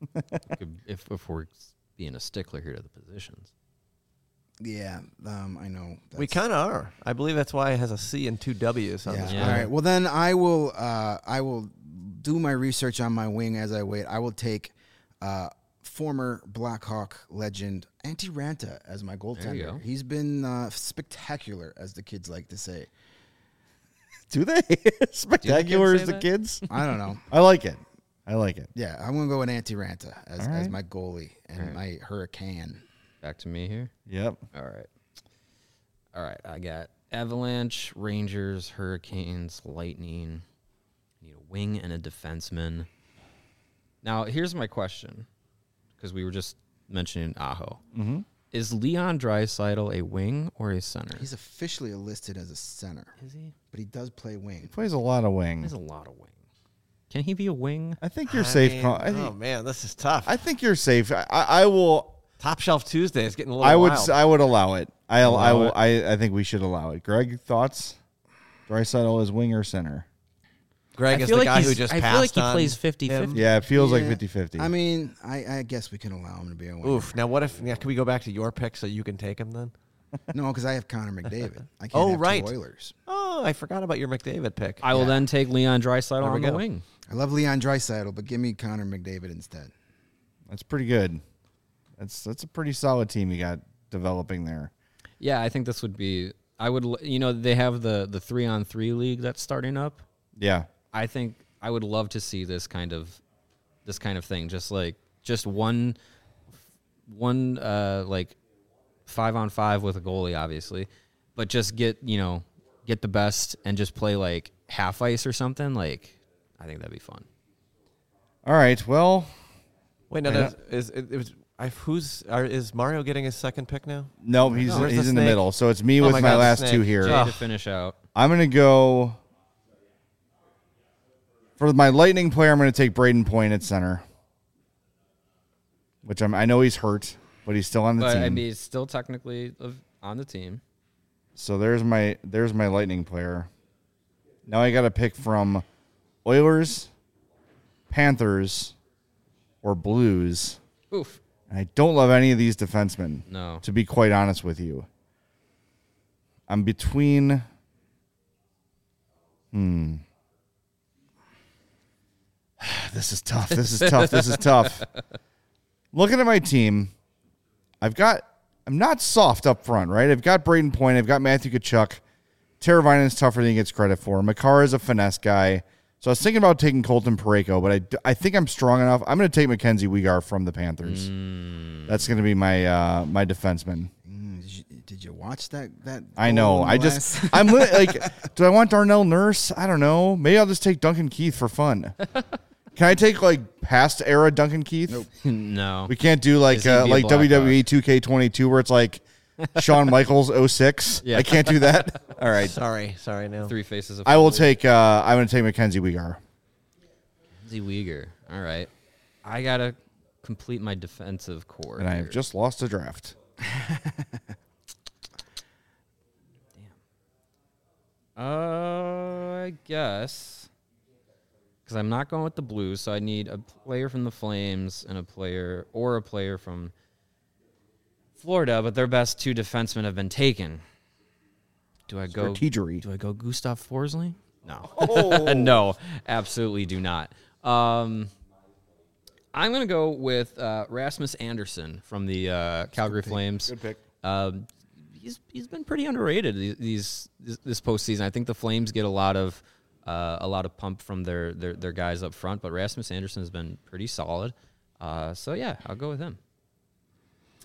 if we're being a stickler here to the positions. Yeah, I know. We kind of are. I believe that's why it has a C and 2 W's on Yeah. this. Yeah. All right. Well, then I will do my research on my wing as I wait. I will take former Blackhawk legend Antti Ranta as my There you goaltender. go. He's been spectacular, as the kids like to say. Do they? Spectacular say as the that? kids? I don't know. I like it. Yeah, I'm gonna go with Antti Ranta as All right. my goalie and my Hurricane. Back to me here. Yep. All right. I got Avalanche, Rangers, Hurricanes, Lightning. I need a wing and a defenseman. Now, here's my question, because we were just mentioning Aho. Mm-hmm. Is Leon Draisaitl a wing or a center? He's officially listed as a center, Is he? but he does play wing. Plays a lot of wing. There's a lot of wing. Can he be a wing? I think you're safe. mean, I oh think, man, this is tough. I think you're safe. I will. Top Shelf Tuesday is getting a little I would. wild. I would allow it. I Allow will. it? I think we should allow it. Greg, thoughts? Draisaitl is wing or center? Greg I is feel the like guy who he's- just I passed feel like he on plays 50-50. him. Yeah, it feels like Yeah. 50-50. I mean, I guess we can allow him to be a wing. Oof. Now, what if? Yeah, can we go back to your pick so you can take him then? No, because I have Connor McDavid. I can't Oh, have right. two Oilers. Oh, I forgot about your McDavid pick. I will then take Leon Draisaitl There we on the go. wing. I love Leon Draisaitl, but give me Connor McDavid instead. That's pretty good. That's a pretty solid team you got developing there. Yeah, I think this would be. I would. They have the 3-on-3 league that's starting up. Yeah. I think I would love to see this kind of thing. Just one like 5-on-5 with a goalie, obviously, but just get the best and just play like half ice or something. Like, I think that'd be fun. All right. Well, Wait, no, Yeah. is Mario getting his second pick now? no, he's Where's the in the snake? middle. So it's me Oh with my my God, the last snake. two here. Jay to finish out. I'm gonna go for my Lightning player. I'm gonna take Braden Point at center, which I know he's hurt, but he's still on the But team. I mean, he's still technically on the team. So there's my Lightning player. Now I got to pick from Oilers, Panthers, or Blues. Oof. And I don't love any of these defensemen. No. To be quite honest with you, I'm between. This is tough. This is tough. This is tough. Looking at my team, I'm not soft up front, right? I've got Braden Point. I've got Matthew Tkachuk. Teravainen's tougher than he gets credit for. Makar is a finesse guy. So I was thinking about taking Colton Parayko, but I think I'm strong enough. I'm going to take Mackenzie Weegar from the Panthers. That's going to be my my defenseman. Did you watch that? I know. goal in I the just last- I'm like, do I want Darnell Nurse? I don't know. Maybe I'll just take Duncan Keith for fun. Can I take like past era Duncan Keith? Nope. No. We can't do like Is he be a like Blackhawk? WWE 2K22 where it's like Shawn Michaels 06. Yeah. I can't do that. All right. Sorry, now. 3 faces of I will Philly. take I'm going to take Mackenzie Weegar. Mackenzie Weegar. All right. I got to complete my defensive core. And I have here. just lost a draft. I guess because I'm not going with the Blues, so I need a player from the Flames and a player from Florida. But their best 2 defensemen have been taken. Do I go? Strategery. Do I go Gustav Forsling? No, Oh. no, absolutely do not. I'm gonna go with Rasmus Anderson from the Calgary Flames. Good pick. He's been pretty underrated this postseason. I think the Flames get a lot of pump from their guys up front, but Rasmus Anderson has been pretty solid. So yeah, I'll go with him.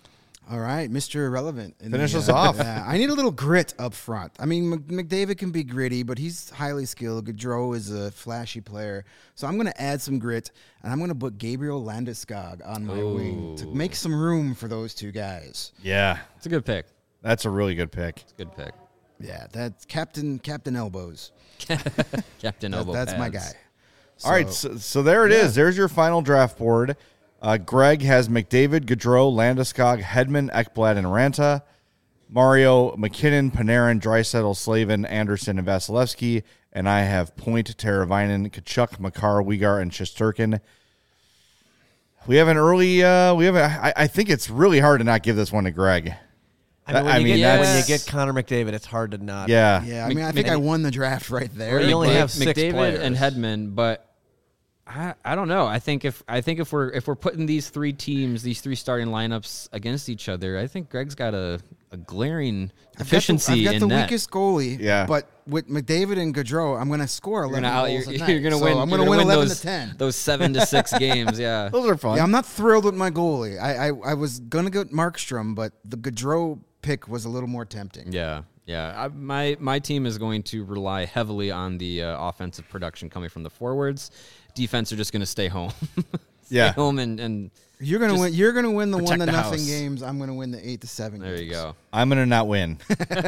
All right, Mr. Irrelevant. Finish us off. Yeah, I need a little grit up front. I mean, McDavid can be gritty, but he's highly skilled. Gaudreau is a flashy player. So I'm going to add some grit, and I'm going to put Gabriel Landeskog on my wing to make some room for those two guys. Yeah, It's a good pick. that's a really good pick. It's a good pick. Yeah, that's Captain Elbows. Captain Elbow That's my pads. guy. All right, so there it is. There's your final draft board. Greg has McDavid, Gaudreau, Landeskog, Hedman, Ekblad, and Ranta. Mario, McKinnon, Panarin, Draisaitl, Slavin, Anderson, and Vasilevsky. And I have Point, Teravainen, Kachuk, Makar, Uyghur, and Shesterkin. We have an early. I think it's really hard to not give this one to Greg. When you that's- get Connor McDavid, it's hard to not. Yeah. Yeah, I mean, I think I won the draft right there. Well, you only Mc- have six McDavid players. and Hedman, but I don't know. I think if we're putting these three teams, these three starting lineups against each other, I think Greg's got a glaring deficiency I've got in the net. weakest goalie. Yeah. But with McDavid and Gaudreau, I'm going to score 11 goals a night. You're gonna So win. I'm you're going to gonna win 11 those, to 10. Those 7 to 6 games. Yeah. Those are fun. Yeah, I'm not thrilled with my goalie. I was going to go Markstrom, but the Gaudreau pick was a little more tempting. Yeah. Yeah. My team is going to rely heavily on the offensive production coming from the forwards. Defense are just going to stay home. Yeah. Stay home and You're going to win. You're going to win the protect 1 to the nothing house. games. I'm going to win the 8 to 7 there games. you go. I'm going to not win.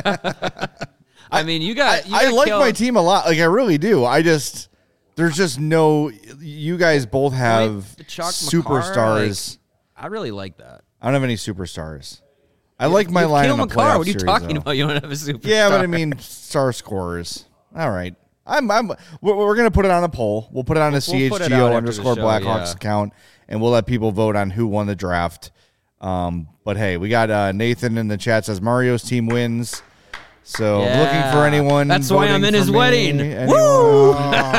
I mean, you got. I like my team a lot. Like, I really do. There's just no. You guys both have the Chalk superstars. I really like that. I don't have any superstars. I like my line Kale in the McCarr, playoff what are you series, talking though. about? You don't have a superstar. Yeah, but I mean, star scorers. All right. We're going to put it on a poll. We'll put it on a We'll put it out CHGO after the _ show, Blackhawks yeah. account, and we'll let people vote on who won the draft. But hey, we got Nathan in the chat says Mario's team wins. So Yeah. looking for anyone. That's why I'm voting in for his me. wedding. Anyone? Woo! Oh,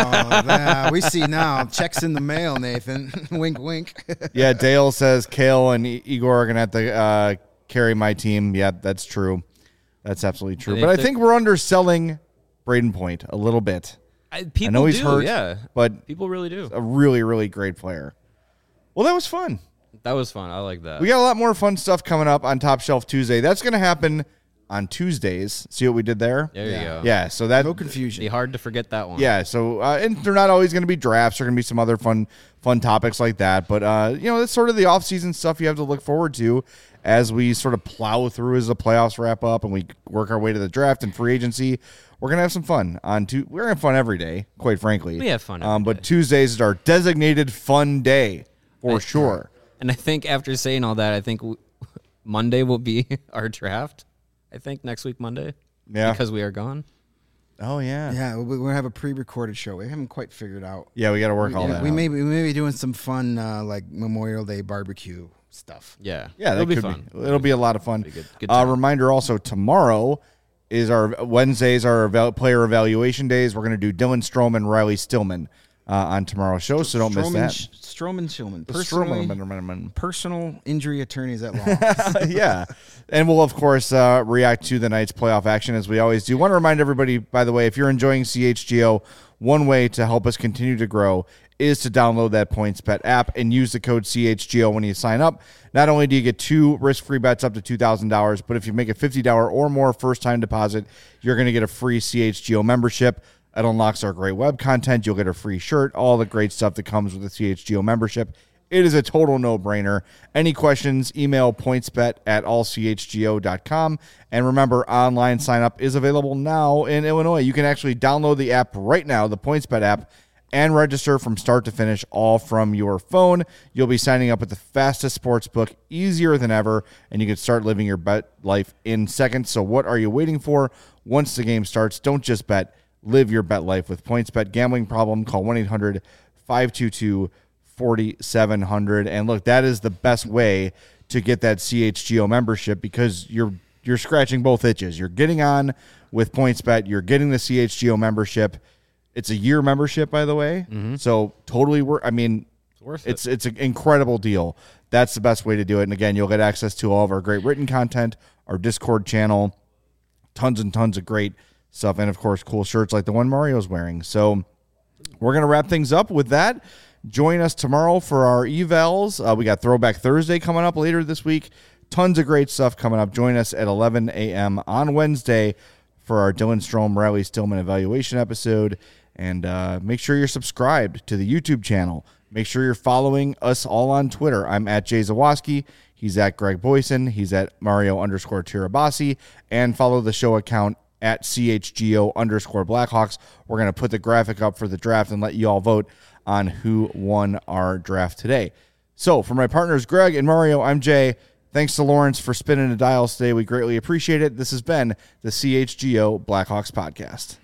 yeah, we see now. Checks in the mail, Nathan. Wink, wink. Yeah, Dale says Kale and Igor are going to have to carry my team. Yeah, that's true. That's absolutely true. And But if I think we're underselling Braden Point a little bit. People I know he's do, hurt, yeah. but People really do. a really, really great player. Well, that was fun. That was fun. I like that. We got a lot more fun stuff coming up on Top Shelf Tuesday. That's going to happen on Tuesdays. See what we did there? There you go. Yeah, so that No confusion. Be hard to forget that one. Yeah, so and they're not always going to be drafts. There are going to be some other fun topics like that. But that's sort of the off-season stuff you have to look forward to as we sort of plow through as the playoffs wrap up and we work our way to the draft and free agency. We're going to have some fun we're going to have fun every day, quite frankly. We have fun every but day. Tuesdays is our designated fun day for sure. And I think after saying all that, I think Monday will be our draft. I think next week, Monday. Yeah. Because we are gone. Oh yeah. Yeah, we're going to have a pre-recorded show. We haven't quite figured out. Yeah, we got to work all that. We out. may be doing some fun like Memorial Day barbecue stuff. Yeah. Yeah, that It'll be could fun. It'll be a lot of fun. good time. Reminder also, tomorrow is our Wednesdays, our player evaluation days. We're going to do Dylan Stroman, Riley Stillman on tomorrow's show, so don't miss that. Stroman Shillman. Stroman. Personal injury attorneys at law. Yeah. And we'll, of course, react to the night's playoff action as we always do. Want to remind everybody, by the way, if you're enjoying CHGO, one way to help us continue to grow is to download that PointsBet app and use the code CHGO when you sign up. Not only do you get 2 risk-free bets up to $2,000, but if you make a $50 or more first-time deposit, you're going to get a free CHGO membership. It unlocks our great web content. You'll get a free shirt, all the great stuff that comes with the CHGO membership. It is a total no-brainer. Any questions, email pointsbet@allchgo.com. And remember, online sign-up is available now in Illinois. You can actually download the app right now, the PointsBet app, and register from start to finish, all from your phone. You'll be signing up with the fastest sports book, easier than ever, and you can start living your bet life in seconds. So what are you waiting for? Once the game starts, don't just bet. Live your bet life with PointsBet. Gambling problem? Call 1-800-522-4700. And look, that is the best way to get that CHGO membership because you're scratching both itches. You're getting on with PointsBet. You're getting the CHGO membership. It's a year membership, by the way. So totally worth. I mean, worth it. it's an incredible deal. That's the best way to do it. And again, you'll get access to all of our great written content, our Discord channel, tons and tons of great stuff, and of course, cool shirts like the one Mario's wearing. So we're gonna wrap things up with that. Join us tomorrow for our evals. We got Throwback Thursday coming up later this week. Tons of great stuff coming up. Join us at 11 a.m. on Wednesday for our Dylan Strome, Riley Stillman evaluation episode. And make sure you're subscribed to the YouTube channel. Make sure you're following us all on Twitter. I'm at Jay Zawoski. He's at Greg Boyson. He's at Mario_Tirabassi. And follow the show account at CHGO_Blackhawks. We're going to put the graphic up for the draft and let you all vote on who won our draft today. So for my partners, Greg and Mario, I'm Jay. Thanks to Lawrence for spinning the dials today. We greatly appreciate it. This has been the CHGO Blackhawks podcast.